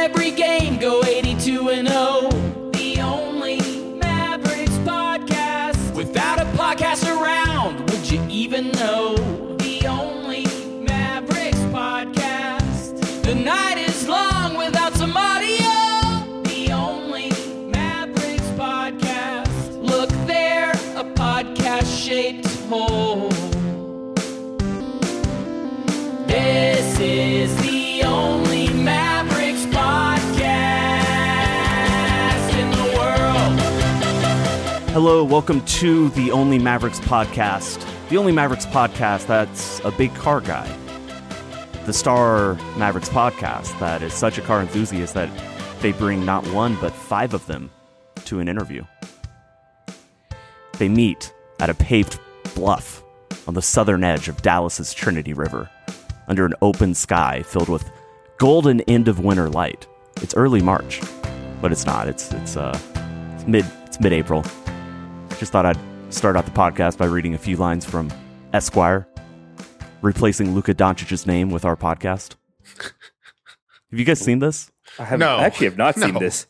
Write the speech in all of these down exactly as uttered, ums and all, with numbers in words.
every game, go eighty-two and oh. The only Mavericks podcast. Without a podcast around, would you even know? The only Mavericks podcast. The night is long without some audio. The only Mavericks podcast. Look there, a podcast-shaped hole. This is the only Mavericks podcast in the world. Hello, welcome to the Only Mavericks podcast. The Only Mavericks podcast that's a big car guy. The Star Mavericks podcast that is such a car enthusiast that they bring not one but five of them to an interview. They meet at a paved bluff on the southern edge of Dallas's Trinity River, under an open sky filled with golden end of winter light. It's early March, but it's not. It's it's uh it's mid it's mid-April. Just thought I'd start out the podcast by reading a few lines from Esquire, replacing Luka Doncic's name with our podcast. Have you guys seen this? I have No. actually have not No. seen this.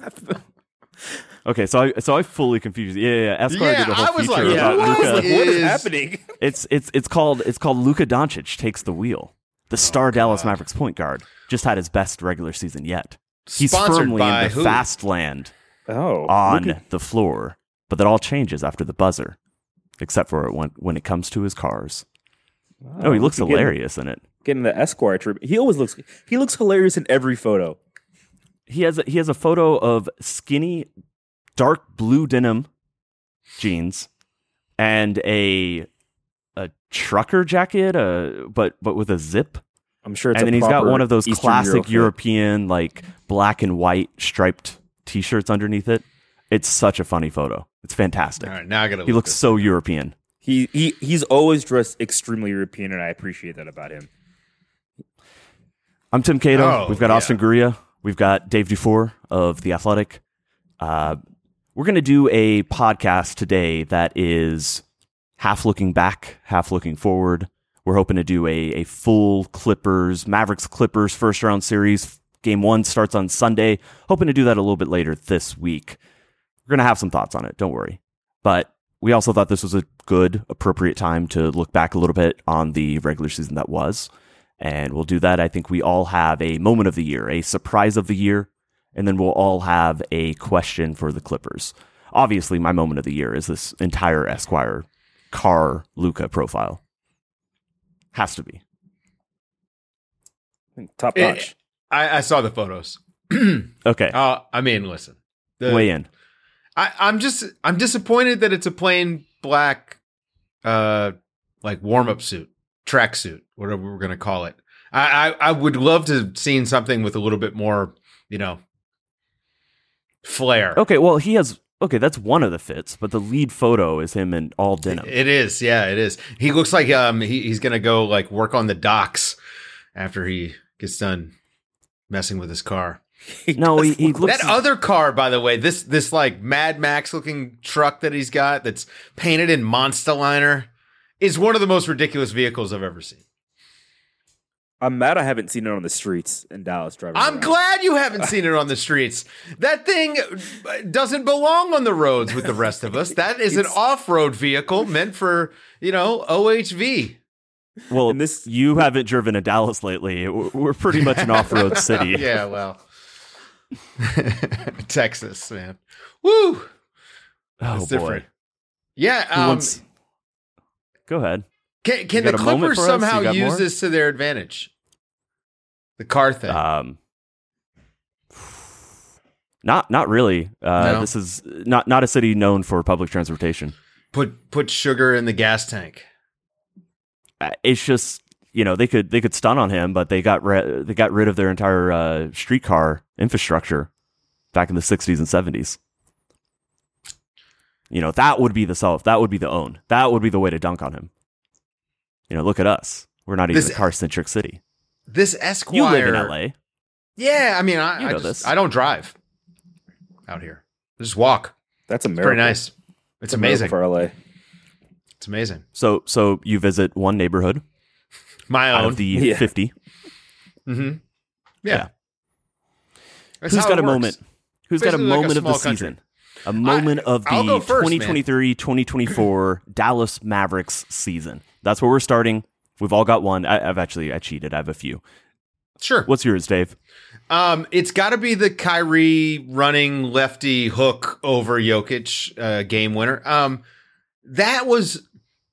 Okay, so I so I fully confused. Yeah, yeah, yeah. Esquire Yeah, did a whole I was feature like, about yeah, Luka. what? What is Is- happening? It's it's it's called it's called Luka Doncic takes the wheel. The star Dallas Mavericks point guard just had his best regular season yet. He's Sponsored firmly by in the who? fast land Oh, on look at- the floor, but that all changes after the buzzer, except for when when it comes to his cars. Oh, he looks look at- hilarious in it. Getting the Esquire treatment. He always looks. He looks hilarious in every photo. He has a, he has a photo of skinny, dark blue denim jeans and a a trucker jacket, uh, but but with a zip. I'm sure it's. And a then he's got proper one of those Eastern classic Euro fit. European, like black and white striped T-shirts underneath it. It's such a funny photo. It's fantastic. All right, now I gotta. He look looks this so up. European. He he he's always dressed extremely European, and I appreciate that about him. I'm Tim Cato. Oh, We've got yeah. Austin Guria. We've got Dave Dufour of The Athletic. Uh, we're going to do a podcast today that is half looking back, half looking forward. We're hoping to do a, a full Clippers, Mavericks Clippers first round series. Game one starts on Sunday. Hoping to do that a little bit later this week. We're going to have some thoughts on it. Don't worry. But we also thought this was a good, appropriate time to look back a little bit on the regular season that was. And we'll do that. I think we all have a moment of the year, a surprise of the year, and then we'll all have a question for the Clippers. Obviously, my moment of the year is this entire Esquire car Luka profile. Has to be. Top Eh, notch. I, I saw the photos. Okay, Uh, I mean, listen. The, weigh in. I, I'm just I'm disappointed that it's a plain black, uh, like warm up suit, track suit, whatever we're gonna call it. I, I I would love to have seen something with a little bit more, you know, flair. Okay, well, he has... Okay, that's one of the fits, but the lead photo is him in all denim. It is, yeah, it is. He looks like um he, he's gonna go like work on the docks after he gets done messing with his car. No, he, he looks... That other car, by the way, this this like Mad Max looking truck that he's got that's painted in Monster Liner is one of the most ridiculous vehicles I've ever seen. I'm mad I haven't seen it on the streets in Dallas driving. I'm around. glad you haven't seen it on the streets. That thing doesn't belong on the roads with the rest of us. That is an off-road vehicle meant for, you know, O H V. Well, And this- you haven't driven to Dallas lately. We're we're pretty much an off-road city. Yeah, well. Texas, man. Woo! Oh, It's boy. different. Yeah, Who um, wants- Go ahead. can, can You the got a moment Clippers for us? somehow You got use more? this to their advantage? The car thing. Um, not not really. Uh, No? This is not not a city known for public transportation. put put sugar in the gas tank. Uh, It's just, you know, they could they could stun on him, but they got ri- they got rid of their entire uh, streetcar infrastructure back in the sixties and seventies. You know, that would be the self. That would be the own. That would be the way to dunk on him. You know, look at us. We're not even This- a car centric city. This Esquire. You live in L A. Yeah, I mean, I, You I, know just, this. I don't drive out here. I just walk. That's a It's miracle. pretty nice. It's a miracle amazing. for L A. It's amazing. So so you visit one neighborhood My out own. of the Yeah. fifty. Mm-hmm. Yeah. That's Who's how got it a works. moment? Who's got a Basically like a moment of the small country. season? A moment I- of I'll the go first, man. twenty twenty-three twenty twenty-four Dallas Mavericks season. That's where we're starting. We've all got one. I, I've actually I cheated. I have a few. Sure. What's yours, Dave? Um, it's got to be the Kyrie running lefty hook over Jokic uh, game winner. Um, that was,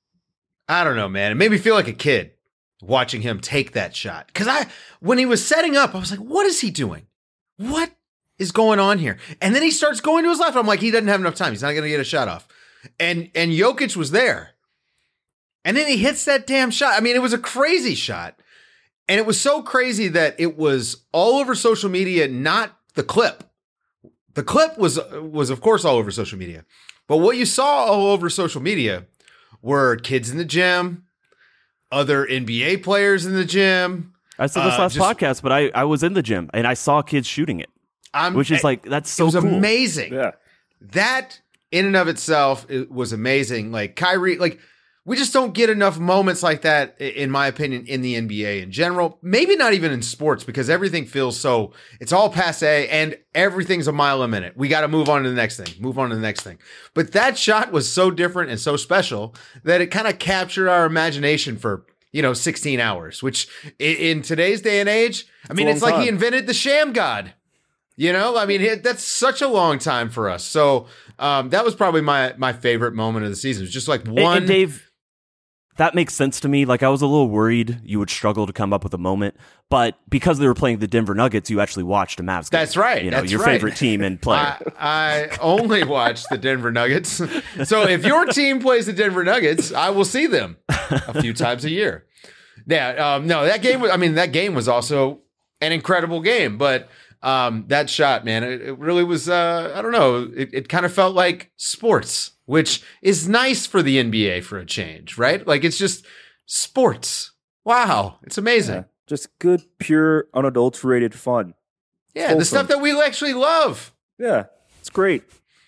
I don't know, man. It made me feel like a kid watching him take that shot. Because I, when he was setting up, I was like, "What is he doing? What is going on here?" And then he starts going to his left. I'm like, he doesn't have enough time. He's not going to get a shot off. And and Jokic was there. And then he hits that damn shot. I mean, it was a crazy shot. And it was so crazy that it was all over social media, not the clip. The clip was, was of course, all over social media. But what you saw all over social media were kids in the gym, other N B A players in the gym. I said this Uh, last just- podcast, but I, I was in the gym and I saw kids shooting it, I'm, which is like, that's so it was cool. amazing. Yeah. That in and of itself it was amazing. Like Kyrie, like we just don't get enough moments like that, i- in my opinion, in the N B A in general. Maybe not even in sports because everything feels so, it's all passe and everything's a mile a minute. We got to move on to the next thing, move on to the next thing. But that shot was so different and so special that it kind of captured our imagination for, you know, sixteen hours, which i- in today's day and age, I mean, a it's long like he time. invented the sham god. You know, I mean, it, that's such a long time for us. So um, that was probably my my favorite moment of the season. It was just like And- one. and Dave, that makes sense to me. Like I was a little worried you would struggle to come up with a moment, but because they were playing the Denver Nuggets, you actually watched a Mavs game. That's right, You know, that's your right. favorite team and player. I, I only watch the Denver Nuggets. So if your team plays the Denver Nuggets, I will see them a few times a year. Yeah, um, no, that game was, I mean, that game was also an incredible game, but um, that shot, man, it, it really was, uh, I don't know, it, it kind of felt like sports, which is nice for the N B A for a change, right? Like it's just sports. Wow, it's amazing. Yeah. Just good, pure, unadulterated fun. Yeah, the Wholesome. stuff that we actually love. Yeah, it's great.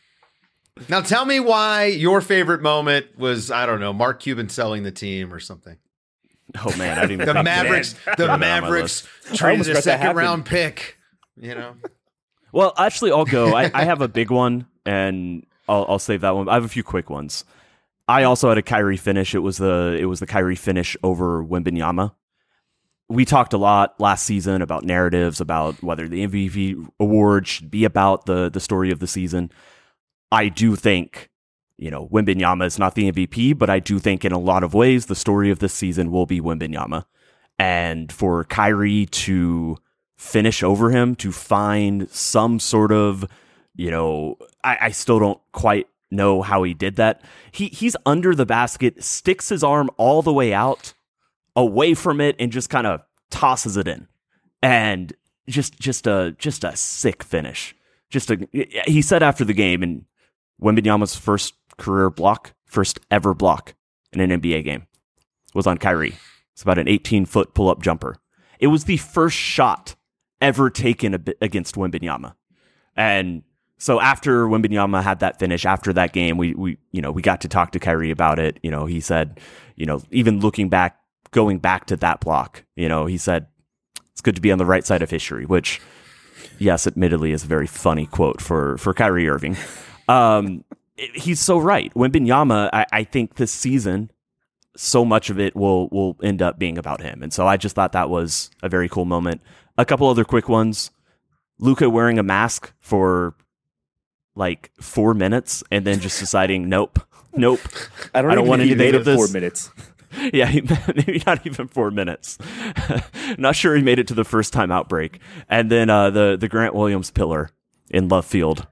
Now tell me why your favorite moment was, I don't know, Mark Cuban selling the team or something. oh man, I didn't even The think- Mavericks, Put the it on my Mavericks I traded almost a let that second happen. round pick. You know, Well, actually, I'll go. I, I have a big one, and I'll, I'll save that one. I have a few quick ones. I also had a Kyrie finish. It was the it was the Kyrie finish over Wembanyama. We talked a lot last season about narratives, about whether the M V P award should be about the the story of the season. I do think, you know, Wembanyama is not the M V P, but I do think in a lot of ways the story of this season will be Wembanyama. And for Kyrie to finish over him, to find some sort of, you know, I, I still don't quite know how he did that. He he's under the basket, sticks his arm all the way out, away from it, and just kind of tosses it in. And just just a just a sick finish. Just a he said after the game, and Wembanyama's first career block, first ever block in an N B A game, was on Kyrie. It's about an eighteen-foot pull-up jumper. It was the first shot ever taken a- against Wembanyama. And so after Wembanyama had that finish, after that game, we we you know we got to talk to Kyrie about it. You know, he said, you know, even looking back, going back to that block, you know, he said it's good to be on the right side of history. Which, yes, admittedly, is a very funny quote for for Kyrie Irving. Um, he's so right. Wembanyama, I, I think this season, so much of it will will end up being about him. And so I just thought that was a very cool moment. A couple other quick ones. Luka wearing a mask for like four minutes and then just deciding, nope, nope. I don't, I don't even want think he anything made of it four this. minutes. Yeah, he, maybe not even four minutes. Not sure he made it to the first time outbreak. And then uh, the, the Grant Williams pillar in Love Field.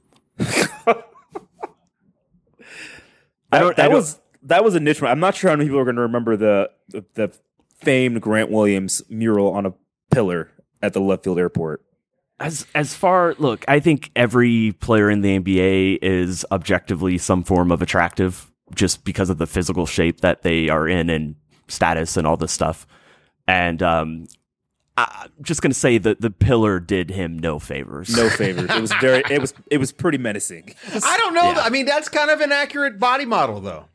I don't, that I don't, was that was a niche one. I'm not sure how many people are going to remember the, the the famed Grant Williams mural on a pillar at the Love Field Airport. As as far look, I think every player in the N B A is objectively some form of attractive, just because of the physical shape that they are in and status and all this stuff. And um, I'm just gonna say that the pillar did him no favors. No favors. It was very. It was. It was pretty menacing. I don't know. Yeah. I mean, that's kind of an accurate body model, though.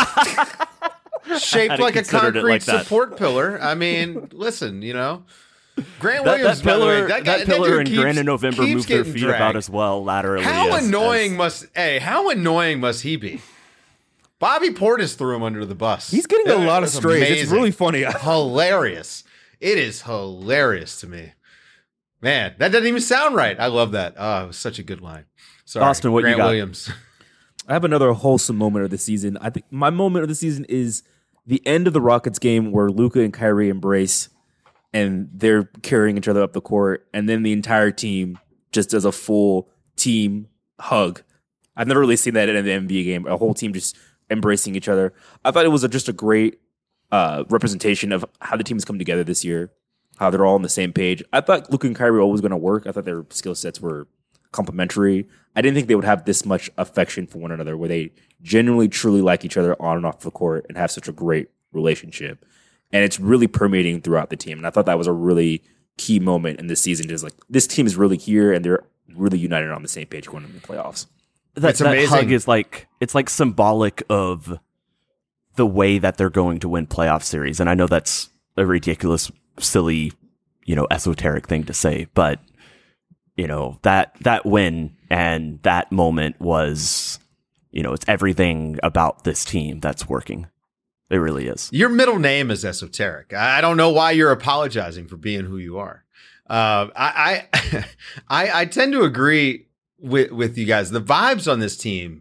Shaped Hadn't like a considered it concrete like that. support pillar. I mean, listen, you know, Grant That, Williams, that by the pillar, way, that, guy, that pillar dude in keeps- Grand in November keeps moved their getting feet dragged. about as well laterally. How as- annoying as- must hey? How annoying must he be? Bobby Portis threw him under the bus. He's getting a It lot of was strays. It's amazing. really funny. hilarious. It is hilarious to me. Man, that doesn't even sound right. I love that. Oh, it was such a good line. Sorry, Austin, what you Grant got? Williams. I have another wholesome moment of the season. I think my moment of the season is the end of the Rockets game where Luka and Kyrie embrace and they're carrying each other up the court, and then the entire team just does a full team hug. I've never really seen that in an N B A game, a whole team just embracing each other. I thought it was a, just a great uh, representation of how the team has come together this year, how they're all on the same page. I thought Luka and Kyrie were always going to work. I thought their skill sets were complementary. I didn't think they would have this much affection for one another, where they genuinely, truly like each other on and off the court and have such a great relationship. And it's really permeating throughout the team. And I thought that was a really key moment in this season. Just like, this team is really here and they're really united on the same page going into the playoffs. That, It's that amazing. hug is like it's like symbolic of the way that they're going to win playoff series. And I know that's a ridiculous, silly, you know, esoteric thing to say, but you know, that that win and that moment was, you know, it's everything about this team that's working. It really is. Your middle name is esoteric. I I don't know why you're apologizing for being who you are. Uh, I, I, I I tend to agree with with you guys. The vibes on this team,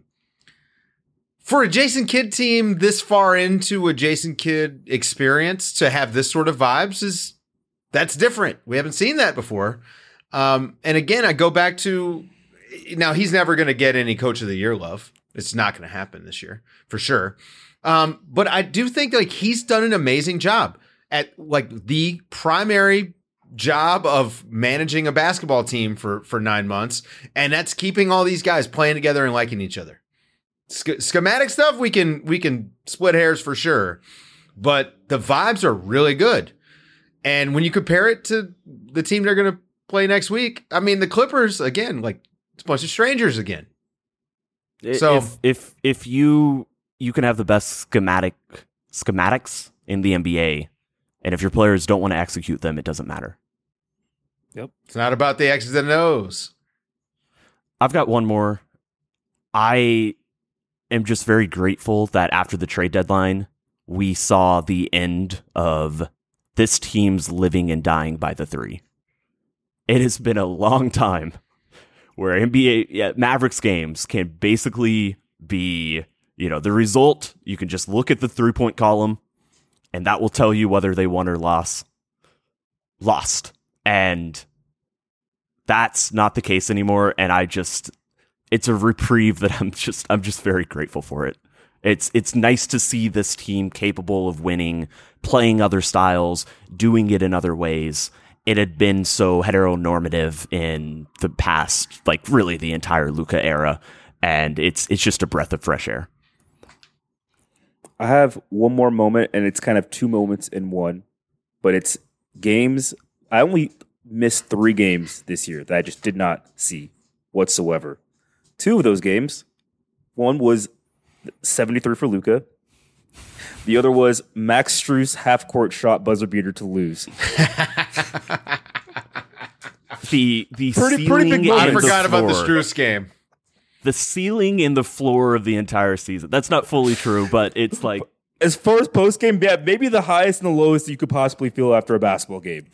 for a Jason Kidd team this far into a Jason Kidd experience, to have this sort of vibes is that's different. We haven't seen that before. Um, and again, I go back to now he's never going to get any Coach of the Year love. It's not going to happen this year for sure. Um, but I do think like he's done an amazing job at like the primary job of managing a basketball team for, for nine months. And that's keeping all these guys playing together and liking each other. Sch- schematic stuff, we can, we can split hairs for sure, but the vibes are really good. And when you compare it to the team they're going to play next week, I mean, the Clippers, again, like it's a bunch of strangers again. So- if if if you you can have the best schematic schematics in the N B A, and if your players don't want to execute them, it doesn't matter. It's not about the X's and O's. I've got one more. I am just very grateful that after the trade deadline, we saw the end of this team's living and dying by the three. It has been a long time where N B A yeah, Mavericks games can basically be, you know, the result. You can just look at the three-point column, and that will tell you whether they won or lost. Lost. And that's not the case anymore. And I just, it's a reprieve that I'm just, I'm just very grateful for it. It's, it's nice to see this team capable of winning, playing other styles, doing it in other ways. It had been so heteronormative in the past, like really the entire Luka era. And it's, it's just a breath of fresh air. I have one more moment, and it's kind of two moments in one, but it's games. I only missed three games this year that I just did not see whatsoever. Two of those games, one was seventy-three for Luka. The other was Max Strus half-court shot buzzer beater to lose. The the Pretty- ceiling pretty big moment. I and the forgot about the floor- Strus game. the ceiling and the floor of the entire season. That's not fully true, but it's like As far as post-game, yeah, maybe the highest and the lowest you could possibly feel after a basketball game.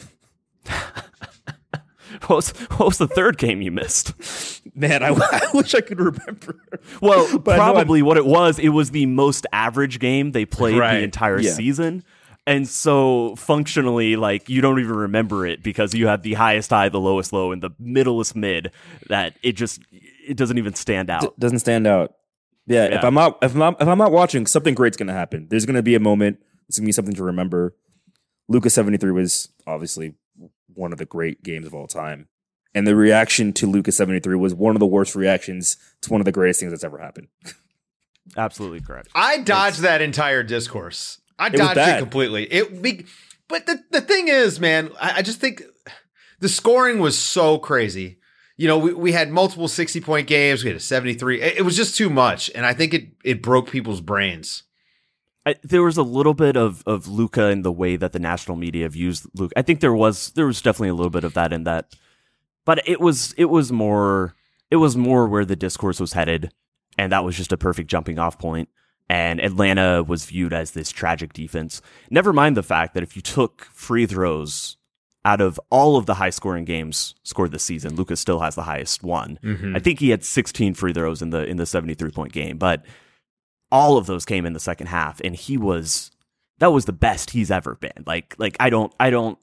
what was, what was the third game you missed? Man, I, I wish I could remember. Well, But I know I'm- probably what it was, it was the most average game they played Right. the entire Yeah. season. And so functionally, like, you don't even remember it because you have the highest high, the lowest low, and the middlest mid that it just, it doesn't even stand out. D- doesn't stand out. Yeah, Yeah. if I'm not if I'm not, if I'm not watching, something great's gonna happen. There's gonna be a moment. It's gonna be something to remember. Luka seventy-three was obviously one of the great games of all time, and the reaction to Luka seventy-three was one of the worst reactions to one of the greatest things that's ever happened. Absolutely correct. I dodged that entire discourse. I was dodged it bad. completely. It be, but the, the thing is, man, I, I just think the scoring was so crazy. You know, we, we had multiple sixty-point games. We had a seventy-three. It, it was just too much, and I think it it broke people's brains. I, there was a little bit of, of Luka in the way that the national media have used Luka. I think there was there was definitely a little bit of that in that, but it was it was more it was more where the discourse was headed, and that was just a perfect jumping off point. And Atlanta was viewed as this tragic defense. Never mind the fact that if you took free throws out of all of the high scoring games scored this season, Luka still has the highest one. Mm-hmm. I think he had sixteen free throws in the in the seventy-three point game, but all of those came in the second half, and he was that was the best he's ever been. Like like I don't I don't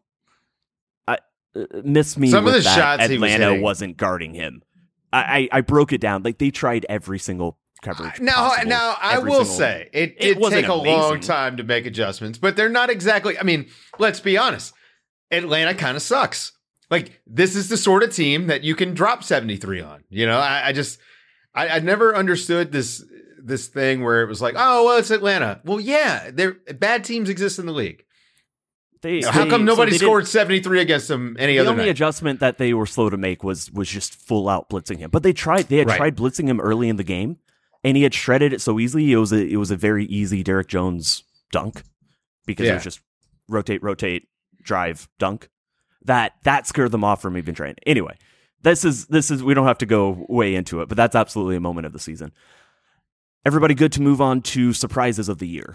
I uh, miss me Some with of the that shots Atlanta he was hitting. wasn't guarding him. I, I I broke it down. Like they tried every single coverage. Now, possible, now I every will single, say it it did wasn't take a amazing. long time to make adjustments, but they're not exactly. I mean, let's be honest. Atlanta kind of sucks. Like this is the sort of team that you can drop seventy-three on. You know, I, I just I, I never understood this this thing where it was like, oh well, it's Atlanta. Well, yeah, they're bad teams exist in the league. They, How they- come nobody so they scored didn't- seventy-three against them any The other only night? adjustment that they were slow to make was was just full out blitzing him. But they tried. They had Right. tried blitzing him early in the game, and he had shredded it so easily. It was a it was a very easy Derek Jones dunk because it Yeah. was just rotate, rotate, drive, dunk. That that scared them off from even trying. Anyway, this is this is we don't have to go way into it, but that's absolutely a moment of the season. Everybody good to move on to surprises of the year.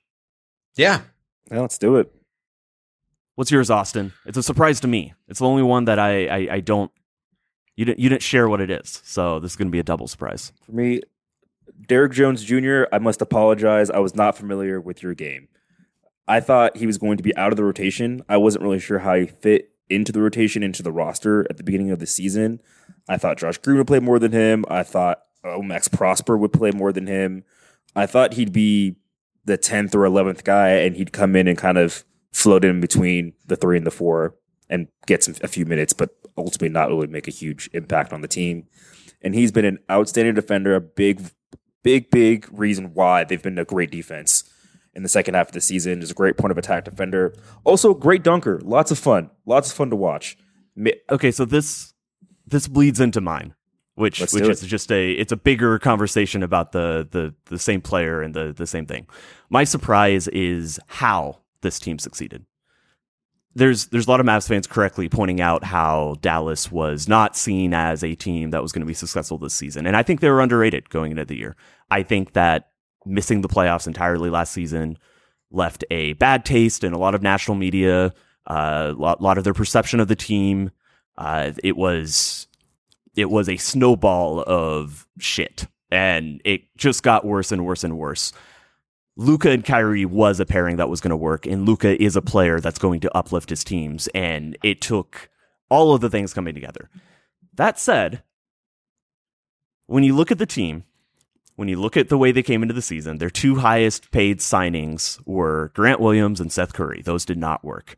Yeah. Yeah, let's do it. What's yours, Austin? It's a surprise to me. It's the only one that I I, I don't you didn't you didn't share what it is. So this is going to be a double surprise. For me, Derek Jones Junior, I must apologize. I was not familiar with your game. I thought he was going to be out of the rotation. I wasn't really sure how he fit into the rotation, into the roster at the beginning of the season. I thought Josh Green would play more than him. I thought oh, Max Prosper would play more than him. I thought he'd be the tenth or eleventh guy, and he'd come in and kind of float in between the three and the four and get some, a few minutes, but ultimately not really make a huge impact on the team. And he's been an outstanding defender, a big, big, big reason why they've been a great defense in the second half of the season. Is a great point of attack defender. Also, great dunker. Lots of fun. Lots of fun to watch. Mi- Okay, so this this bleeds into mine, which Let's which do is it. just a it's a bigger conversation about the the the same player and the the same thing. My surprise is how this team succeeded. There's there's a lot of Mavs fans correctly pointing out how Dallas was not seen as a team that was going to be successful this season, and I think they were underrated going into the year. I think that missing the playoffs entirely last season left a bad taste in a lot of national media, a lot, lot of their perception of the team. Uh, it was it was a snowball of shit, and it just got worse and worse and worse. Luka and Kyrie was a pairing that was going to work, and Luka is a player that's going to uplift his teams, and it took all of the things coming together. That said, when you look at the team, when you look at the way they came into the season, their two highest paid signings were Grant Williams and Seth Curry. Those did not work.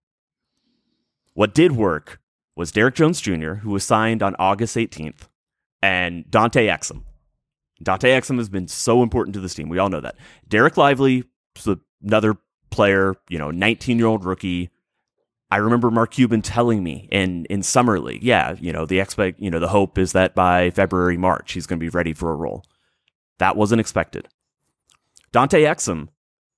What did work was Derek Jones Junior, who was signed on August eighteenth, and Dante Exum. Dante Exum has been so important to this team. We all know that. Derek Lively, another player, you know, nineteen-year-old rookie. I remember Mark Cuban telling me in, in Summer League, yeah, you know, the expect, you know, the hope is that by February, March, he's going to be ready for a role. That wasn't expected. Dante Exum,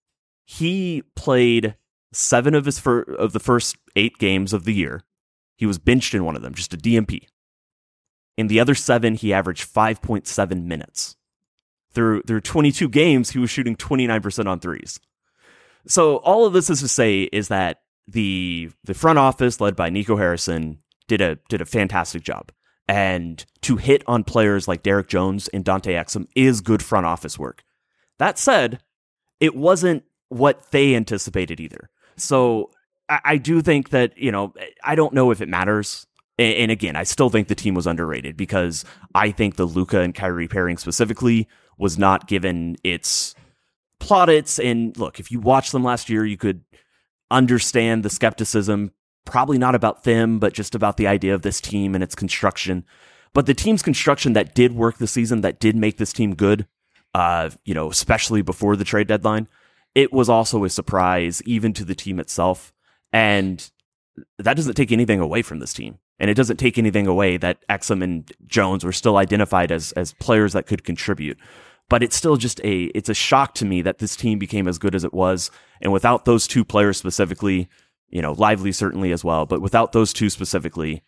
he played seven of his fir- of the first eight games of the year. He was benched in one of them, just a D M P. In the other seven, he averaged five point seven minutes. Through through twenty-two games, he was shooting twenty-nine percent on threes. So all of this is to say is that the the front office, led by Nico Harrison, did a did a fantastic job. And to hit on players like Derek Jones and Dante Exum is good front office work. That said, it wasn't what they anticipated either. So I, I do think that, you know, I don't know if it matters. And, and again, I still think the team was underrated because I think the Luka and Kyrie pairing specifically was not given its plaudits. And look, if you watched them last year, you could understand the skepticism. Probably not about them, but just about the idea of this team and its construction. But the team's construction that did work this season, that did make this team good, uh, you know, especially before the trade deadline, it was also a surprise even to the team itself. And that doesn't take anything away from this team. And it doesn't take anything away that Exum and Jones were still identified as as players that could contribute. but it's still just a it's a shock to me that this team became as good as it was, and without those two players specifically, you know, Lively certainly as well, but without those two specifically,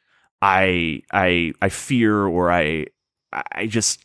I I I fear or I I just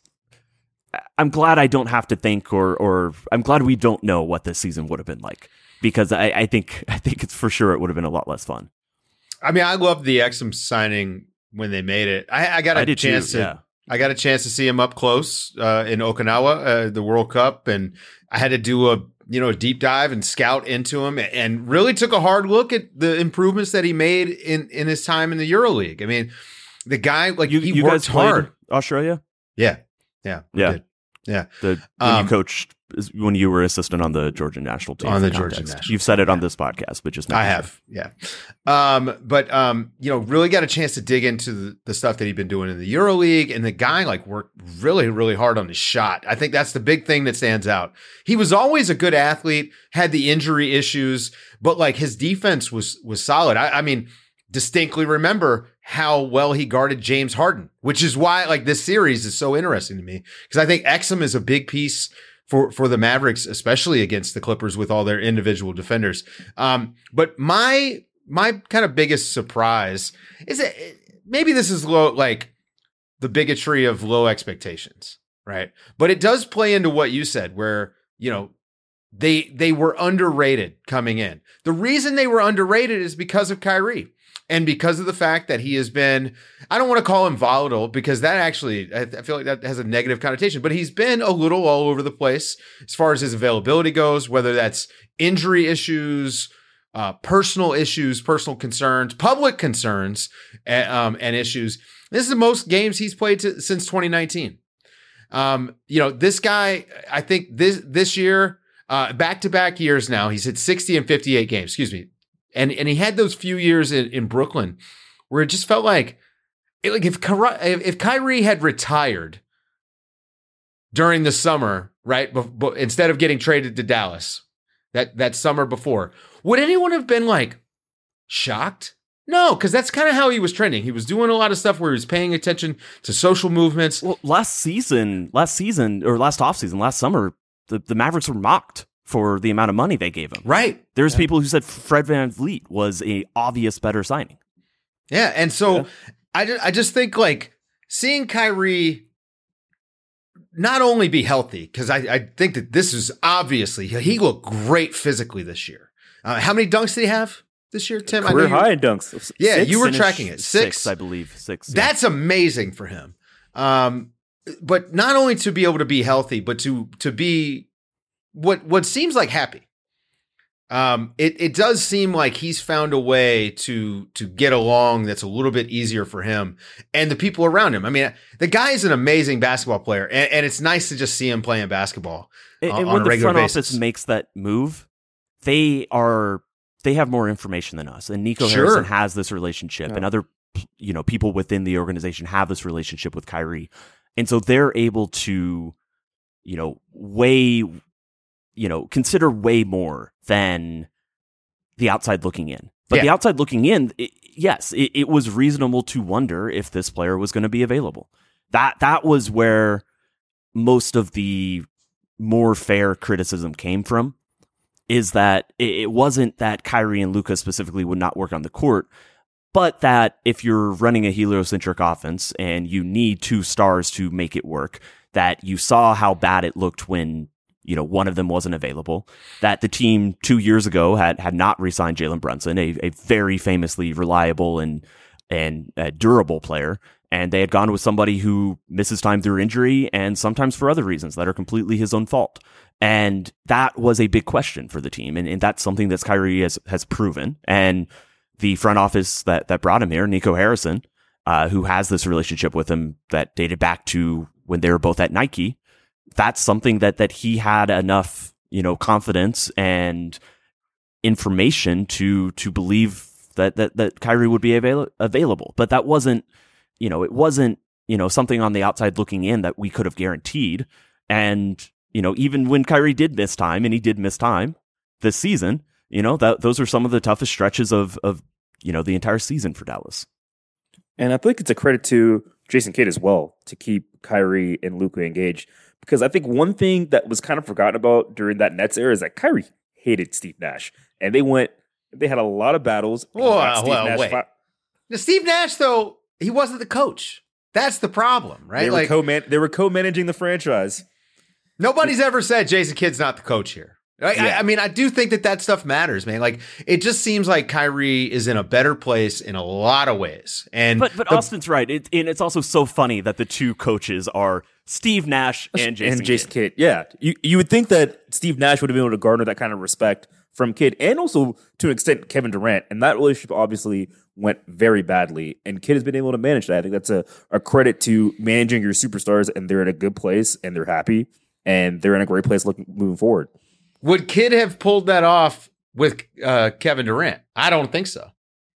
I'm glad I don't have to think or or I'm glad we don't know what this season would have been like, because I, I think I think it's for sure it would have been a lot less fun. I mean, I loved the Exum signing when they made it. I, I got a I did chance too, to yeah. I got a chance to see him up close uh, in Okinawa, uh, the World Cup, and I had to do a you know a deep dive and scout into him, and really took a hard look at the improvements that he made in in his time in the EuroLeague. I mean, the guy like You, he you worked guys played hard. Australia? Yeah, yeah, we Yeah. did. Yeah. The when Um, you coached when you were assistant on the Georgian national team. On for the Georgian context. national You've said it on yeah. this podcast, but just I making have, yeah. Um, but um, you know, really got a chance to dig into the, the stuff that he'd been doing in the EuroLeague, and the guy like worked really, really hard on his shot. I think that's the big thing that stands out. He was always a good athlete, had the injury issues, but like his defense was was solid. I, I mean, distinctly remember how well he guarded James Harden, which is why like this series is so interesting to me, because I think Exum is a big piece for, for the Mavericks, especially against the Clippers with all their individual defenders. Um, but my, my kind of biggest surprise is that maybe this is low, like the bigotry of low expectations, right? But it does play into what you said, where, you know, they, they were underrated coming in. The reason they were underrated is because of Kyrie. And because of the fact that he has been, I don't want to call him volatile, because that actually, I feel like that has a negative connotation, but he's been a little all over the place as far as his availability goes, whether that's injury issues, uh, personal issues, personal concerns, public concerns, and, um, and issues. This is the most games he's played to, since twenty nineteen. Um, you know, this guy, I think this, this year, uh, back-to-back years now, he's hit sixty and fifty-eight games, excuse me. And and he had those few years in, in Brooklyn where it just felt like, it, like if Kyrie, if Kyrie had retired during the summer, right, but, but instead of getting traded to Dallas that, that summer before, would anyone have been like shocked? No, because that's kind of how he was trending. He was doing a lot of stuff where he was paying attention to social movements. Well, last season, last season or last offseason, last summer, the, the Mavericks were mocked for the amount of money they gave him. Right. There's Yeah. people who said Fred VanVleet was a obvious better signing. Yeah, and so Yeah. I just, I just think like seeing Kyrie not only be healthy, because I, I think that this is obviously, he looked great physically this year. Uh, how many dunks did he have this year, Tim? I know Career you- high in dunks. Yeah, Six? you were Finished tracking it. Six? six I believe. Six. yeah. That's amazing for him. Um, but not only to be able to be healthy, but to to be what what seems like happy. Um, it it does seem like he's found a way to to get along that's a little bit easier for him and the people around him. I mean, the guy is an amazing basketball player, and, and it's nice to just see him playing basketball And, uh, and on when a the regular front basis. office makes that move, they are they have more information than us. And Nico Sure. Harrison has this relationship, Yeah. and other you know people within the organization have this relationship with Kyrie, and so they're able to you know weigh you know consider way more than the outside looking in. But Yeah. the outside looking in, it, yes, it, it was reasonable to wonder if this player was going to be available. That that was where most of the more fair criticism came from, is that it, it wasn't that Kyrie and Luka specifically would not work on the court, but that if you're running a heliocentric offense and you need two stars to make it work, that you saw how bad it looked when you know, one of them wasn't available, that the team two years ago had, had not re-signed Jalen Brunson, a, a very famously reliable and, and uh, durable player. And they had gone with somebody who misses time through injury and sometimes for other reasons that are completely his own fault. And that was a big question for the team. And, and that's something that Kyrie has, has proven. And the front office that, that brought him here, Nico Harrison, uh, who has this relationship with him that dated back to when they were both at Nike, that's something that that he had enough, you know, confidence and information to to believe that that that Kyrie would be avail- available. But that wasn't, you know, it wasn't, you know, something on the outside looking in that we could have guaranteed. And, you know, even when Kyrie did miss time, and he did miss time this season, you know, that those are some of the toughest stretches of of, you know, the entire season for Dallas. And I think it's a credit to Jason Kidd as well to keep Kyrie and Luka engaged, because I think one thing that was kind of forgotten about during that Nets era is that Kyrie hated Steve Nash, and they went, they had a lot of battles. Whoa, Steve well, Nash wait. fi- Now, Steve Nash, though, he wasn't the coach. That's the problem, right? They were Like co-man, they were co-managing the franchise. nobody's ever said Jason Kidd's not the coach here. I, Yeah. I, I mean, I do think that that stuff matters, man. Like, it just seems like Kyrie is in a better place in a lot of ways. And But but the- Austin's right. It, and it's also so funny that the two coaches are Steve Nash and Jason, and Jason Kidd. Kidd. Yeah, you you would think that Steve Nash would have been able to garner that kind of respect from Kidd, and also to an extent Kevin Durant. And that relationship obviously went very badly, and Kidd has been able to manage that. I think that's a, a credit to managing your superstars, and they're in a good place, and they're happy, and they're in a great place looking moving forward. would Kidd have pulled that off with uh, Kevin Durant? I don't think so.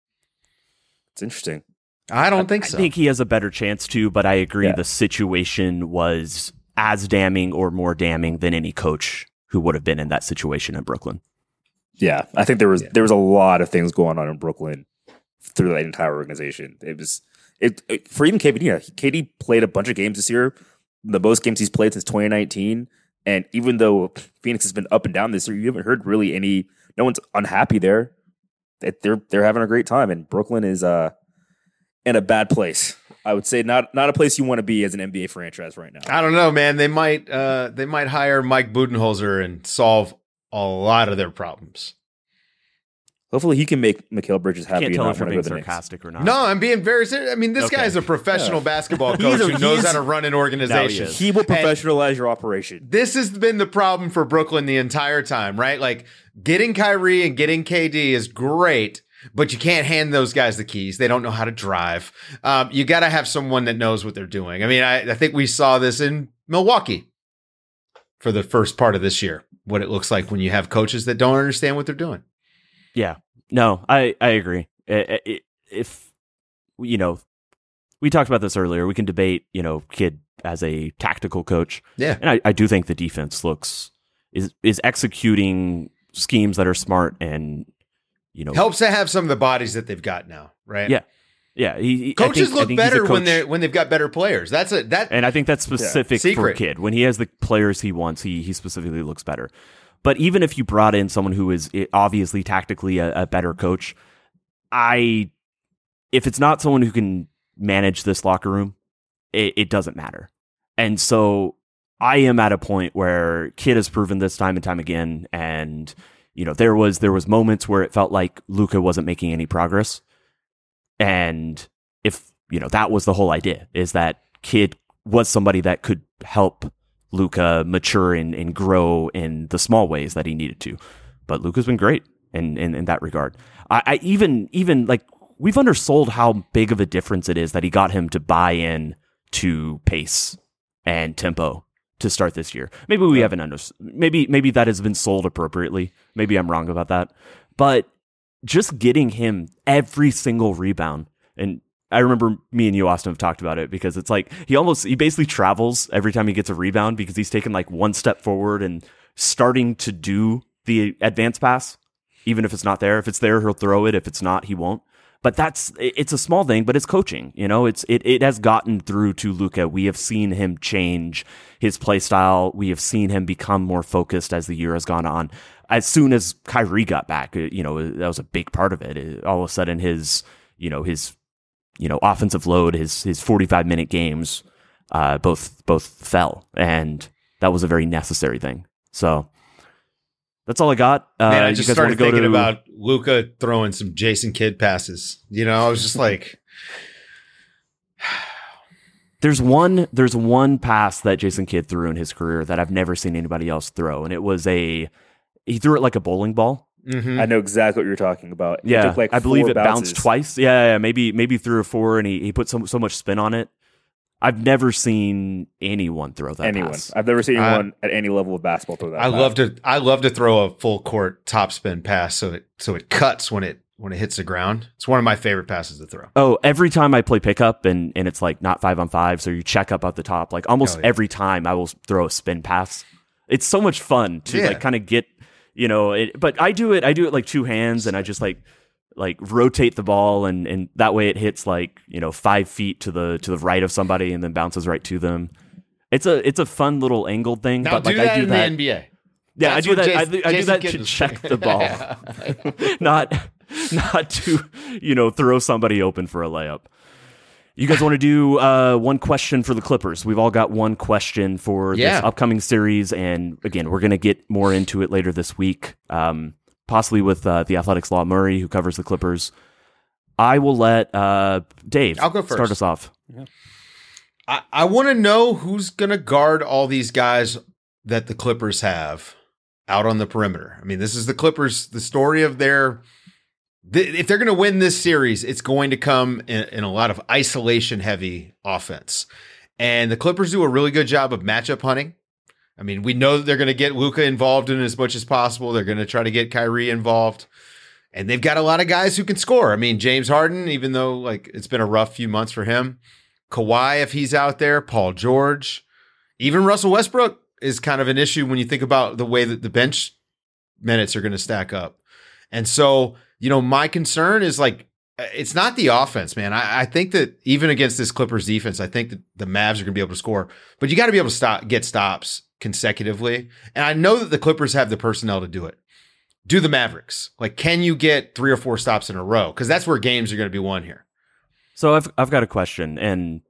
It's interesting. I don't think I so. think he has a better chance to, but I agree Yeah. the situation was as damning or more damning than any coach who would have been in that situation in Brooklyn. Yeah, I think there was there was a lot of things going on in Brooklyn through that entire organization. It was it, it for even K D. Yeah, K D played a bunch of games this year, the most games he's played since twenty nineteen. And even though Phoenix has been up and down this year, you haven't heard really any. No one's unhappy there. That they're they're having a great time, and Brooklyn is uh in a bad place. I would say not not a place you want to be as an N B A franchise right now. I don't know, man. They might uh, they might hire Mike Budenholzer and solve a lot of their problems. Hopefully, he can make Mikal Bridges happy. Can't and tell not if you're wanna being go to the Knicks. sarcastic or not. No, I'm being very serious. I mean, this Okay. guy is a professional Yeah. basketball He's coach a- who knows he's- how to run an organization. is. He will And professionalize your operation. this has been the problem for Brooklyn the entire time, right? Like getting Kyrie and getting K D is great, but you can't hand those guys the keys. They don't know how to drive. Um, you got to have someone that knows what they're doing. I mean, I, I think we saw this in Milwaukee for the first part of this year, what it looks like when you have coaches that don't understand what they're doing. Yeah. No, I, I agree. I- I- If, you know, we talked about this earlier, we can debate, you know, Kidd as a tactical coach. Yeah. And I, I do think the defense looks, is is executing schemes that are smart and, you know. Helps to have some of the bodies that they've got now, right? Yeah. Yeah. He, he- I Coaches think- I look think he's a better when coach- they when they've got better players. That's a that And I think that's specific for Secret. Kidd. When he has the players he wants, he he specifically looks better. But even if you brought in someone who is obviously tactically a, a better coach, I if it's not someone who can manage this locker room, it, it doesn't matter. And so I am at a point where Kidd has proven this time and time again. And you know, there was there was moments where it felt like Luka wasn't making any progress. And if you know, that was the whole idea, is that Kidd was somebody that could help Luka mature and, and grow in the small ways that he needed to. But Luka's been great in, in, in that regard. I, I even even like we've undersold how big of a difference it is that he got him to buy in to pace and tempo to start this year. Maybe we haven't under maybe maybe that has been sold appropriately. Maybe I'm wrong about that. But just getting him every single rebound, and I remember me and you, Austin, have talked about it, because it's like he almost he basically travels every time he gets a rebound, because he's taken like one step forward and starting to do the advance pass, even if it's not there. If it's there, he'll throw it. If it's not, he won't. But that's it's a small thing, but it's coaching. You know, it's it it has gotten through to Luka. We have seen him change his play style. We have seen him become more focused as the year has gone on. As soon as Kyrie got back, you know, that was a big part of it. All of a sudden, his you know his you know offensive load, his his forty-five minute games, uh, both both fell, and that was a very necessary thing. So that's all I got. Uh, Man, I you just guys wanna started go thinking to- about Luka throwing some Jason Kidd passes. You know, I was just like, There's one there's one pass that Jason Kidd threw in his career that I've never seen anybody else throw, and it was a he threw it like a bowling ball. mhm. I know exactly what you're talking about. It Yeah, took like I believe four it bounces. bounced twice. Yeah, yeah, yeah, maybe maybe three or four, and he, he put so so much spin on it. I've never seen anyone throw that Anyone. pass. I've never seen I- anyone at any level of basketball throw that. I pass. love to I love to throw a full court topspin pass so it so it cuts when it when it hits the ground. It's one of my favorite passes to throw. Oh, every time I play pickup and, and it's like not five on five, so you check up at the top, like almost Oh, yeah. every time I will throw a spin pass. It's so much fun to Yeah. like kind of get, you know, it, but I do it, I do it like two hands, and I just like, like rotate the ball, and, and that way it hits like, you know, five feet to the, to the right of somebody and then bounces right to them. It's a it's a fun little angled thing, Now but do like that I do in that. the N B A. Yeah, That's I do what that. I, Jason- do- I do Jason that Kidd to was check saying. the ball, not not to you know throw somebody open for a layup. You guys want to do uh, one question for the Clippers? We've all got one question for Yeah. this upcoming series, and again, we're going to get more into it later this week, um, possibly with uh, the Athletics' Law Murray, who covers the Clippers. I will let uh, Dave I'll go start first. us off. I, I want to know who's going to guard all these guys that the Clippers have out on the perimeter. I mean, this is the Clippers, the story of their. Th- if they're going to win this series, it's going to come in, in a lot of isolation heavy offense. And the Clippers do a really good job of matchup hunting. I mean, we know that they're going to get Luka involved in as much as possible. They're going to try to get Kyrie involved. And they've got a lot of guys who can score. I mean, James Harden, even though like it's been a rough few months for him. Kawhi, if he's out there, Paul George, even Russell Westbrook is kind of an issue when you think about the way that the bench minutes are going to stack up. And so, you know, my concern is like, it's not the offense, man. I, I think that even against this Clippers defense, I think that the Mavs are going to be able to score, but you got to be able to stop, get stops consecutively. And I know that the Clippers have the personnel to do it. Do the Mavericks. Like, can you get three or four stops in a row? Because that's where games are going to be won here. So I've I've got a question, and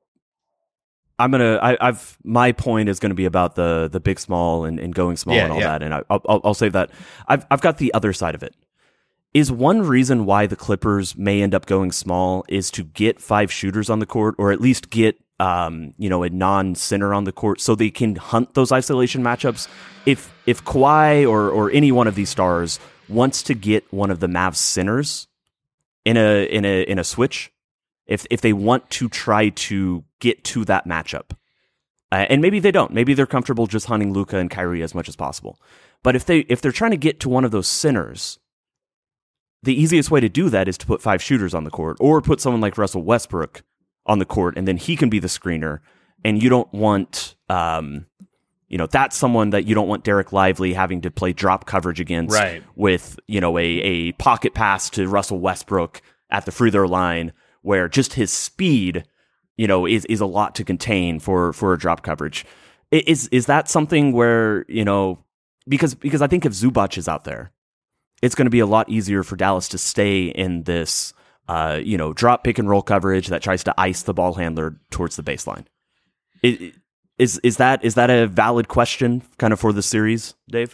I'm gonna I, I've my point is going to be about the the big small and, and going small Yeah, and all yeah. that, and I, I'll I'll save that. I've I've got the other side of it. Is one reason why the Clippers may end up going small is to get five shooters on the court, or at least get um you know a non-center on the court, so they can hunt those isolation matchups. If if Kawhi or or any one of these stars wants to get one of the Mavs centers in a in a in a switch. If if they want to try to get to that matchup, uh, and maybe they don't, maybe they're comfortable just hunting Luka and Kyrie as much as possible. But if they if they're trying to get to one of those centers, the easiest way to do that is to put five shooters on the court, or put someone like Russell Westbrook on the court, and then he can be the screener. And you don't want, um, you know, that's someone that you don't want Derek Lively having to play drop coverage against, Right. with you know a a pocket pass to Russell Westbrook at the free throw line, where just his speed, you know, is, is a lot to contain for, for a drop coverage. I- Is is that something where, you know, because because I think if Zubac is out there, it's going to be a lot easier for Dallas to stay in this, uh, you know, drop pick and roll coverage that tries to ice the ball handler towards the baseline. I- Is is that is that a valid question, kind of for the series, Dave?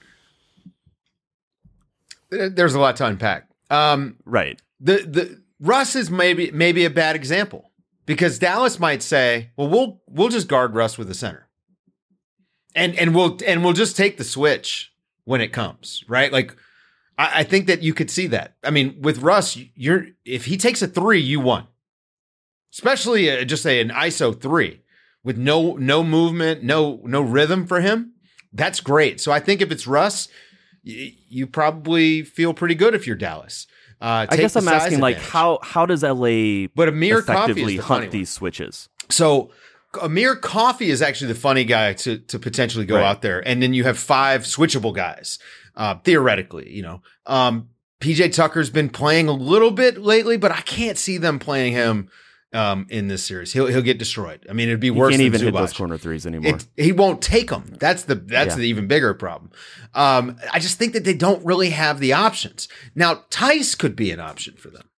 There's a lot to unpack. Um, Right. the the Russ is maybe maybe a bad example, because Dallas might say, "Well, we'll we'll just guard Russ with the center, and and we'll and we'll just take the switch when it comes." Right? Like, I, I think that you could see that. I mean, with Russ, you're if he takes a three, you won. Especially uh, just say an I S O three with no no movement, no no rhythm for him. That's great. So I think if it's Russ, y- you probably feel pretty good if you're Dallas. Uh, I take guess the I'm size asking, like, advantage. how how does L A But Amir Coffey effectively is the funny hunt one. these switches? So Amir Coffey is actually the funny guy to to potentially go Right. out there, and then you have five switchable guys, uh, theoretically. You know, um, P J Tucker's been playing a little bit lately, but I can't see them playing him um, in this series. He'll he'll get destroyed. I mean, it'd be He worse can't than even hit Zubac. those corner threes anymore. It, he won't take them. That's the that's Yeah. the even bigger problem. Um, I just think that they don't really have the options. Now, Tice could be an option for them.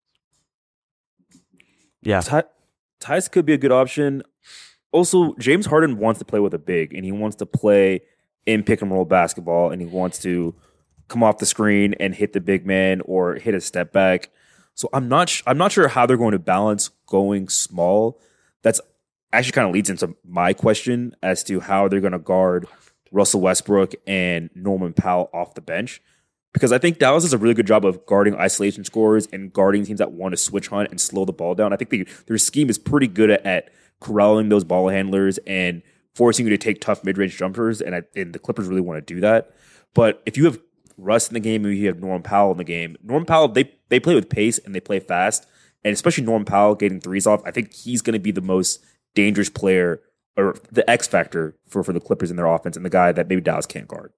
yeah, Ty- Tice could be a good option. Also, James Harden wants to play with a big, and he wants to play in pick and roll basketball, and he wants to come off the screen and hit the big man or hit a step back. So I'm not sh- I'm not sure how they're going to balance going small. That's actually kind of leads into my question as to how they're going to guard Russell Westbrook and Norman Powell off the bench. Because I think Dallas does a really good job of guarding isolation scorers and guarding teams that want to switch hunt and slow the ball down. I think they, their scheme is pretty good at, at corralling those ball handlers and forcing you to take tough mid-range jumpers, and, I, and the Clippers really want to do that. But if you have Russ in the game and you have Norman Powell in the game, Norman Powell, they, they play with pace and they play fast, and especially Norman Powell getting threes off, I think he's going to be the most dangerous player or the X factor for, for the Clippers in their offense, and the guy that maybe Dallas can't guard.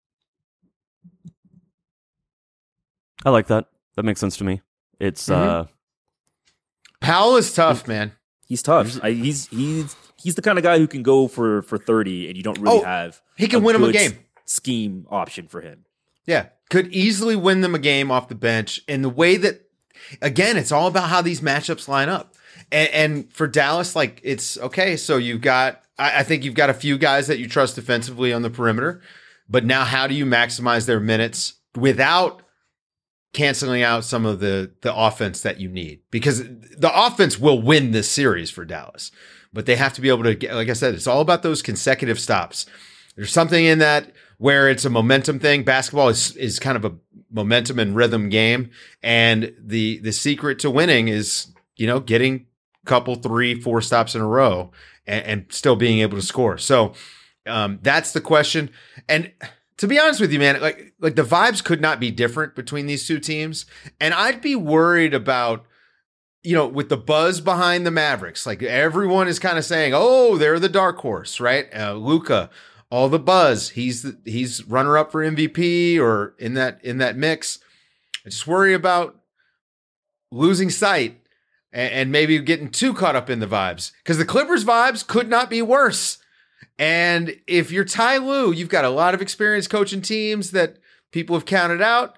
I like that. That makes sense to me. It's Mhm. uh, Powell is tough, man. He's tough. I, he's he's he's the kind of guy who can go for, for thirty, and you don't really Oh, have he can a win him a good game. scheme option for him. Yeah, could easily win them a game off the bench. And the way that, again, it's all about how these matchups line up. And, and for Dallas, like, it's okay. So you've got, I, I think you've got a few guys that you trust defensively on the perimeter. But now, how do you maximize their minutes without canceling out some of the the offense that you need? Because the offense will win this series for Dallas, but they have to be able to get, like I said, it's all about those consecutive stops. There's something in that where it's a momentum thing. Basketball is is kind of a momentum and rhythm game, and the the secret to winning is, you know, getting a couple, three, four stops in a row and, and still being able to score. So um, that's the question. And to be honest with you, man, like like the vibes could not be different between these two teams. And I'd be worried about, you know, with the buzz behind the Mavericks, like everyone is kind of saying, oh, they're the dark horse, right? Uh, Luka, all the buzz. He's the, he's runner up for M V P or in that in that mix. I just worry about losing sight and, and maybe getting too caught up in the vibes, because the Clippers vibes could not be worse. And if you're Ty Lue, you've got a lot of experience coaching teams that people have counted out.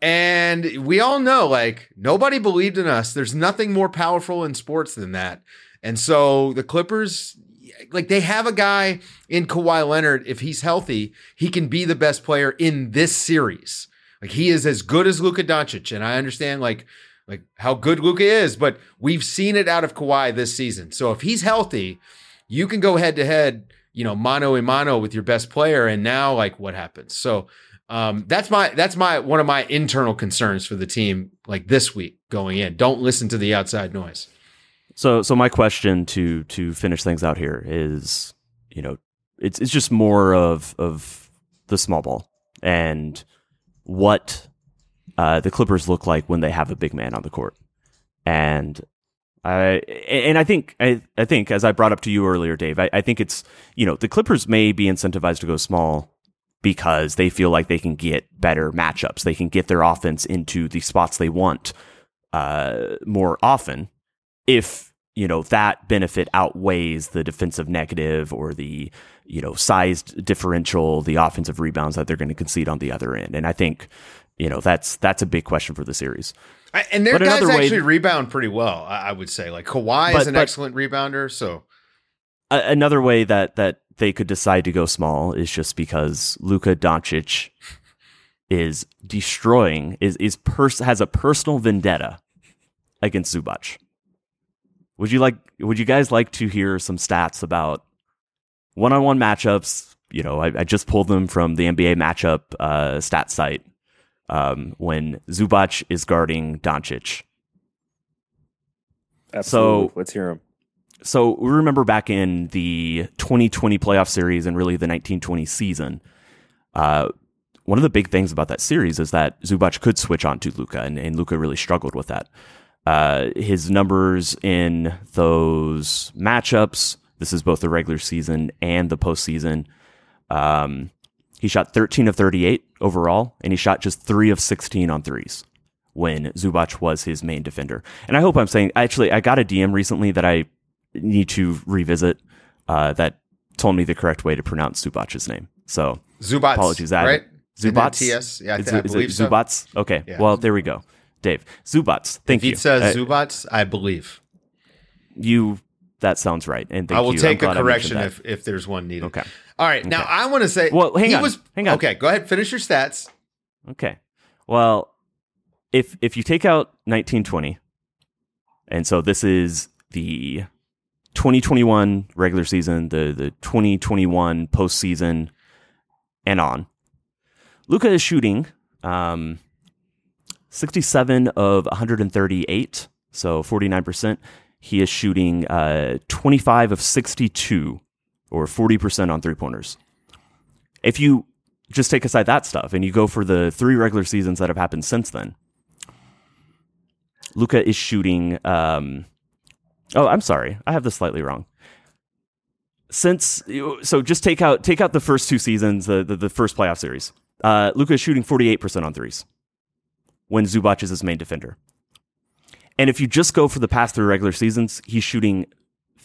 And we all know, like, nobody believed in us. There's nothing more powerful in sports than that. And so the Clippers, like, they have a guy in Kawhi Leonard. If he's healthy, he can be the best player in this series. Like, he is as good as Luka Doncic. And I understand, like, like how good Luka is, but we've seen it out of Kawhi this season. So if he's healthy, you can go head to head, you know, mano a mano with your best player. And now, like, what happens? So um, that's my, that's my, one of my internal concerns for the team, like this week going in. Don't listen to the outside noise. So, so my question to, to finish things out here is, you know, it's, it's just more of, of the small ball and what uh, the Clippers look like when they have a big man on the court. And I and I think I, I think as I brought up to you earlier, Dave, I, I think it's, you know, the Clippers may be incentivized to go small because they feel like they can get better matchups. They can get their offense into the spots they want uh, more often if, you know, that benefit outweighs the defensive negative or the, you know, sized differential, the offensive rebounds that they're going to concede on the other end. And I think, you know, that's that's a big question for the series. I, and their but guys way, actually rebound pretty well, I, I would say. Like Kawhi but, is an but, excellent rebounder. So a, another way that that they could decide to go small is just because Luka Doncic is destroying is is pers- has a personal vendetta against Zubac. Would you like? Would you guys like to hear some stats about one-on-one matchups? You know, I, I just pulled them from the N B A matchup uh, stat site. Um, when Zubac is guarding Doncic. Absolutely. So, let's hear him. So we remember back in the twenty twenty playoff series and really the nineteen twenty season, uh, one of the big things about that series is that Zubac could switch on to Luka, and, and Luka really struggled with that. Uh, his numbers in those matchups, this is both the regular season and the postseason, um, he shot thirteen of thirty-eight overall, and he shot just three of sixteen on threes when Zubac was his main defender. And I hope I'm saying, actually, I got a D M recently that I need to revisit uh, that told me the correct way to pronounce Zubac's name. So Zubac, apologies. right? Zubac? T S? Yeah, I, is, th- I is believe it so. Zubac? Okay, Yeah. well, there we go. Dave, Zubac, thank if you. If it says uh, Zubac, I believe. You, that sounds right. And thank I will you. take I'm a glad I correction mentioned if, if there's one needed. Okay. All right. Now, Okay. I want to say, Well, hang he on. was, Hang on. Okay, go ahead. Finish your stats. Okay. Well, if if you take out nineteen twenty, and so this is the twenty twenty-one regular season, the, the twenty twenty-one postseason, and on, Luka is shooting um, sixty-seven of one hundred thirty-eight, so forty-nine percent. He is shooting uh, twenty-five of sixty-two, or forty percent on three-pointers. If you just take aside that stuff and you go for the three regular seasons that have happened since then, Luka is shooting... Um, oh, I'm sorry. I have this slightly wrong. Since So just take out take out the first two seasons, the, the, the first playoff series. Uh, Luka is shooting forty-eight percent on threes when Zubac is his main defender. And if you just go for the past three regular seasons, he's shooting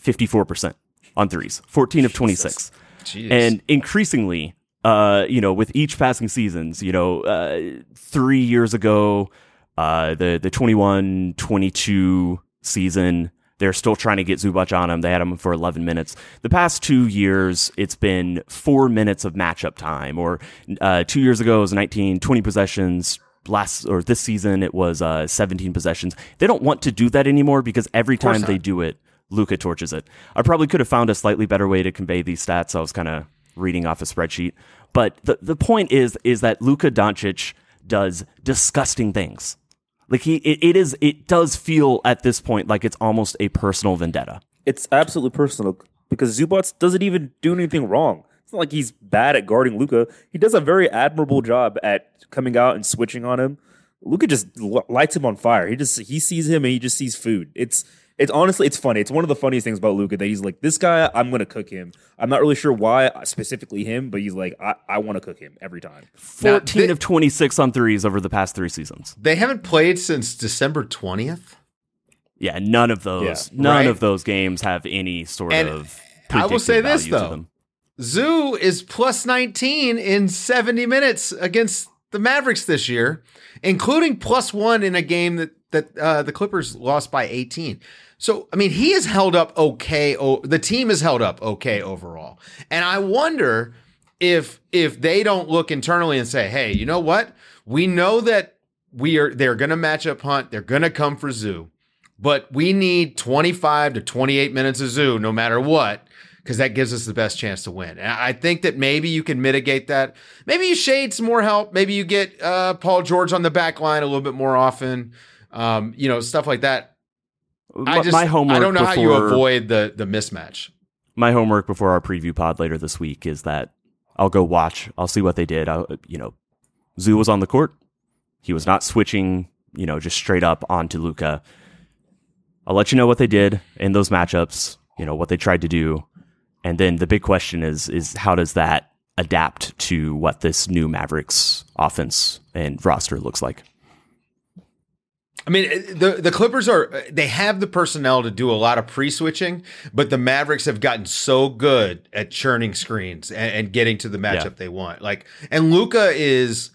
fifty-four percent on threes, fourteen of twenty-six. Jeez. And increasingly, uh, you know, with each passing seasons, you know, uh, three years ago, uh, the, the twenty-one twenty-two season, they're still trying to get Zubac on him. They had him for eleven minutes. The past two years, it's been four minutes of matchup time. Or uh, two years ago, it was nineteen, twenty possessions. Last or this season, it was uh, seventeen possessions. They don't want to do that anymore because every time they do it, Luka torches it. I probably could have found a slightly better way to convey these stats. I was kind of reading off a spreadsheet. But the, the point is, is that Luka Doncic does disgusting things. Like he, it, it is, it does feel at this point like it's almost a personal vendetta. It's absolutely personal because Zubac doesn't even do anything wrong. It's not like he's bad at guarding Luka. He does a very admirable job at coming out and switching on him. Luka just l- lights him on fire. He just he sees him and he just sees food. It's it's honestly it's funny. It's one of the funniest things about Luka that he's like, this guy, I'm gonna cook him. I'm not really sure why specifically him, but he's like, I, I want to cook him every time. fourteen Now, they- of twenty-six on threes over the past three seasons. They haven't played since December twentieth. Yeah, none of those, Yeah. none Right. of those games have any sort And of. I will say predictive this, value to though. them. Zoo is plus nineteen in seventy minutes against the Mavericks this year, including plus one in a game that that uh, the Clippers lost by eighteen. So, I mean, he has held up okay. Oh, the team has held up okay overall. And I wonder if if they don't look internally and say, hey, you know what? We know that we are they're going to match up Hunt. They're going to come for Zoo. But we need twenty-five to twenty-eight minutes of Zoo no matter what, because that gives us the best chance to win. And I think that maybe you can mitigate that. Maybe you shade some more help. Maybe you get uh, Paul George on the back line a little bit more often. Um, you know, stuff like that. I just, my homework I don't know how you before- avoid the the mismatch. My homework before our preview pod later this week is that I'll go watch. I'll see what they did. I'll, you know, Zoo was on the court. He was not switching, you know, just straight up onto Luka. I'll let you know what they did in those matchups, you know, what they tried to do. And then the big question is, is how does that adapt to what this new Mavericks offense and roster looks like? I mean, the the Clippers are, they have the personnel to do a lot of pre-switching, but the Mavericks have gotten so good at churning screens and, and getting to the matchup Yeah. they want. Like, and Luka is,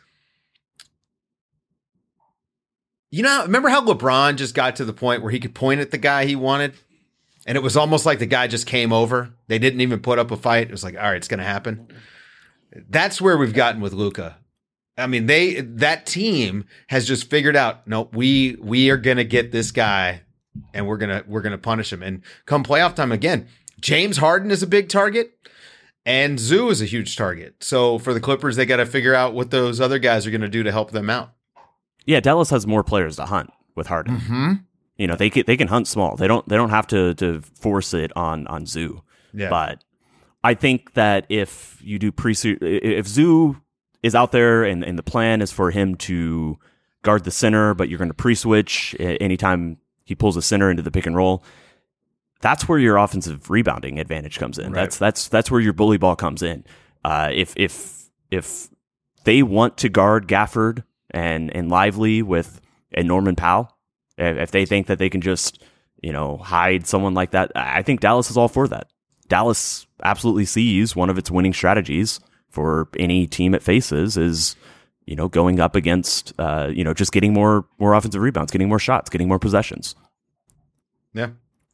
you know, remember how LeBron just got to the point where he could point at the guy he wanted? And it was almost like the guy just came over. They didn't even put up a fight. It was like, all right, it's going to happen. That's where we've gotten with Luka. I mean, they that team has just figured out, no, we we are gonna get this guy, and we're gonna we're gonna punish him. And come playoff time again, James Harden is a big target, and Zoo is a huge target. So for the Clippers, they got to figure out what those other guys are gonna do to help them out. Yeah, Dallas has more players to hunt with Harden. Mm-hmm. You know, they can, they can hunt small. They don't they don't have to to force it on on Zoo. Yeah. But I think that if you do pre if Zoo is out there and, and the plan is for him to guard the center, but you're going to pre-switch anytime he pulls a center into the pick and roll, that's where your offensive rebounding advantage comes in. Right. That's that's that's where your bully ball comes in. Uh, if if if they want to guard Gafford and and Lively with and Norman Powell, if they think that they can just, you know, hide someone like that, I think Dallas is all for that. Dallas absolutely sees one of its winning strategies for any team it faces is, you know, going up against, uh, you know, just getting more more offensive rebounds, getting more shots, getting more possessions. Yeah.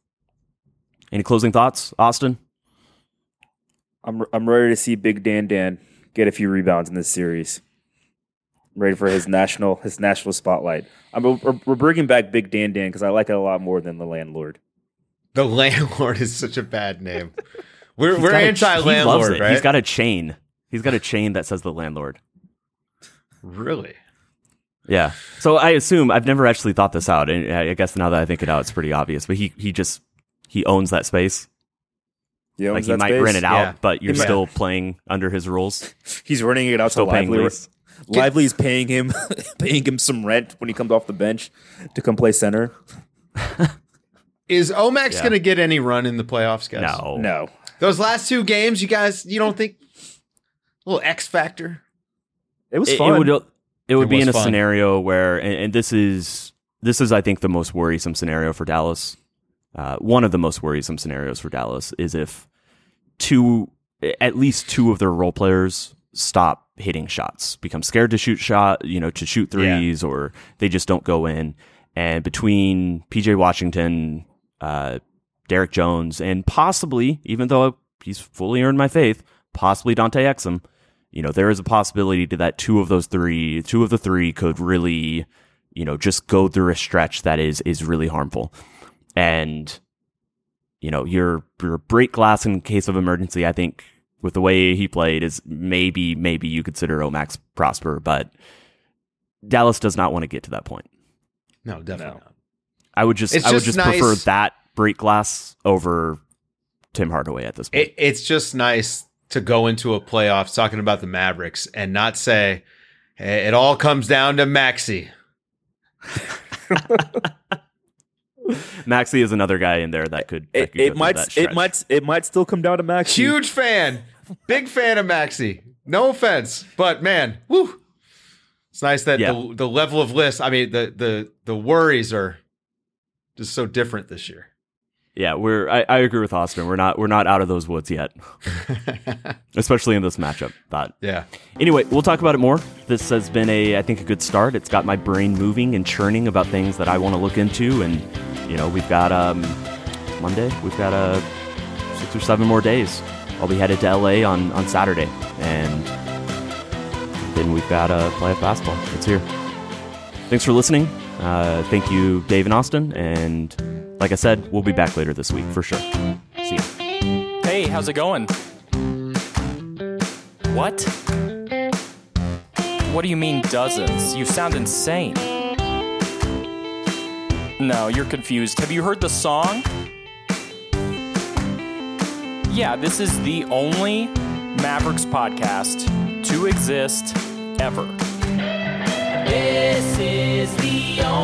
Any closing thoughts, Austin? I'm I'm ready to see Big Dan Dan get a few rebounds in this series. I'm ready for his national his national spotlight. I'm we're, we're bringing back Big Dan Dan because I like it a lot more than the landlord. The landlord is such a bad name. We're He's we're got a- anti he loves landlord, it. right? He's got a chain. He's got a chain that says the landlord. really. Yeah. So I assume I've never actually thought this out, and I guess now that I think it out, it's pretty obvious. But he he just he owns that space. You know, Like he might rent it out, Yeah. but you're He might- still playing under his rules. He's renting it out Still to paying Lively. lease. Lively's paying him paying him some rent when he comes off the bench to come play center. Is Omax Yeah. going to get any run in the playoffs, guys? No. No. Those last two games, you guys, you don't think a little X factor? It was It, fun. it would it would It be was in a fun. scenario where, and, and this is this is I think the most worrisome scenario for Dallas Uh, one of the most worrisome scenarios for Dallas is if two, at least two of their role players stop hitting shots, become scared to shoot shot, you know, to shoot threes, yeah. or they just don't go in. And between P J Washington, uh, Derek Jones, and possibly, even though he's fully earned my faith, possibly Dante Exum, you know, there is a possibility to that two of those three, two of the three could really, you know, just go through a stretch that is is really harmful. And, you know, your your break glass in case of emergency, I think, with the way he played, is maybe maybe you consider Omax Prosper, but Dallas does not want to get to that point. No, definitely No. not. I would just It's I would just just prefer nice. that break glass over Tim Hardaway at this point. It, it's just nice to go into a playoffs talking about the Mavericks and not say, hey, it all comes down to Maxey. Maxey is another guy in there that could. That It, could it go through might that it stretch. might it might still come down to Max. Huge fan. Big fan of Maxey. No offense, but man, woo. It's nice that Yeah. the, the level of list, I mean, the, the, the worries are just so different this year. Yeah, we're. I, I agree with Austin. We're not. We're not out of those woods yet, especially in this matchup. But Yeah. anyway, we'll talk about it more. This has been a, I think, a good start. It's got my brain moving and churning about things that I want to look into, and you know, we've got um, Monday. We've got uh, six or seven more days. I'll be headed to L A on on Saturday, and then we've got uh, playoff basketball. It's here. Thanks for listening. Uh, thank you, Dave and Austin, and like I said, we'll be back later this week for sure. See ya. Hey, how's it going? What? What do you mean dozens? You sound insane. No, you're confused. Have you heard the song? Yeah, this is the only Mavericks podcast to exist ever. This is the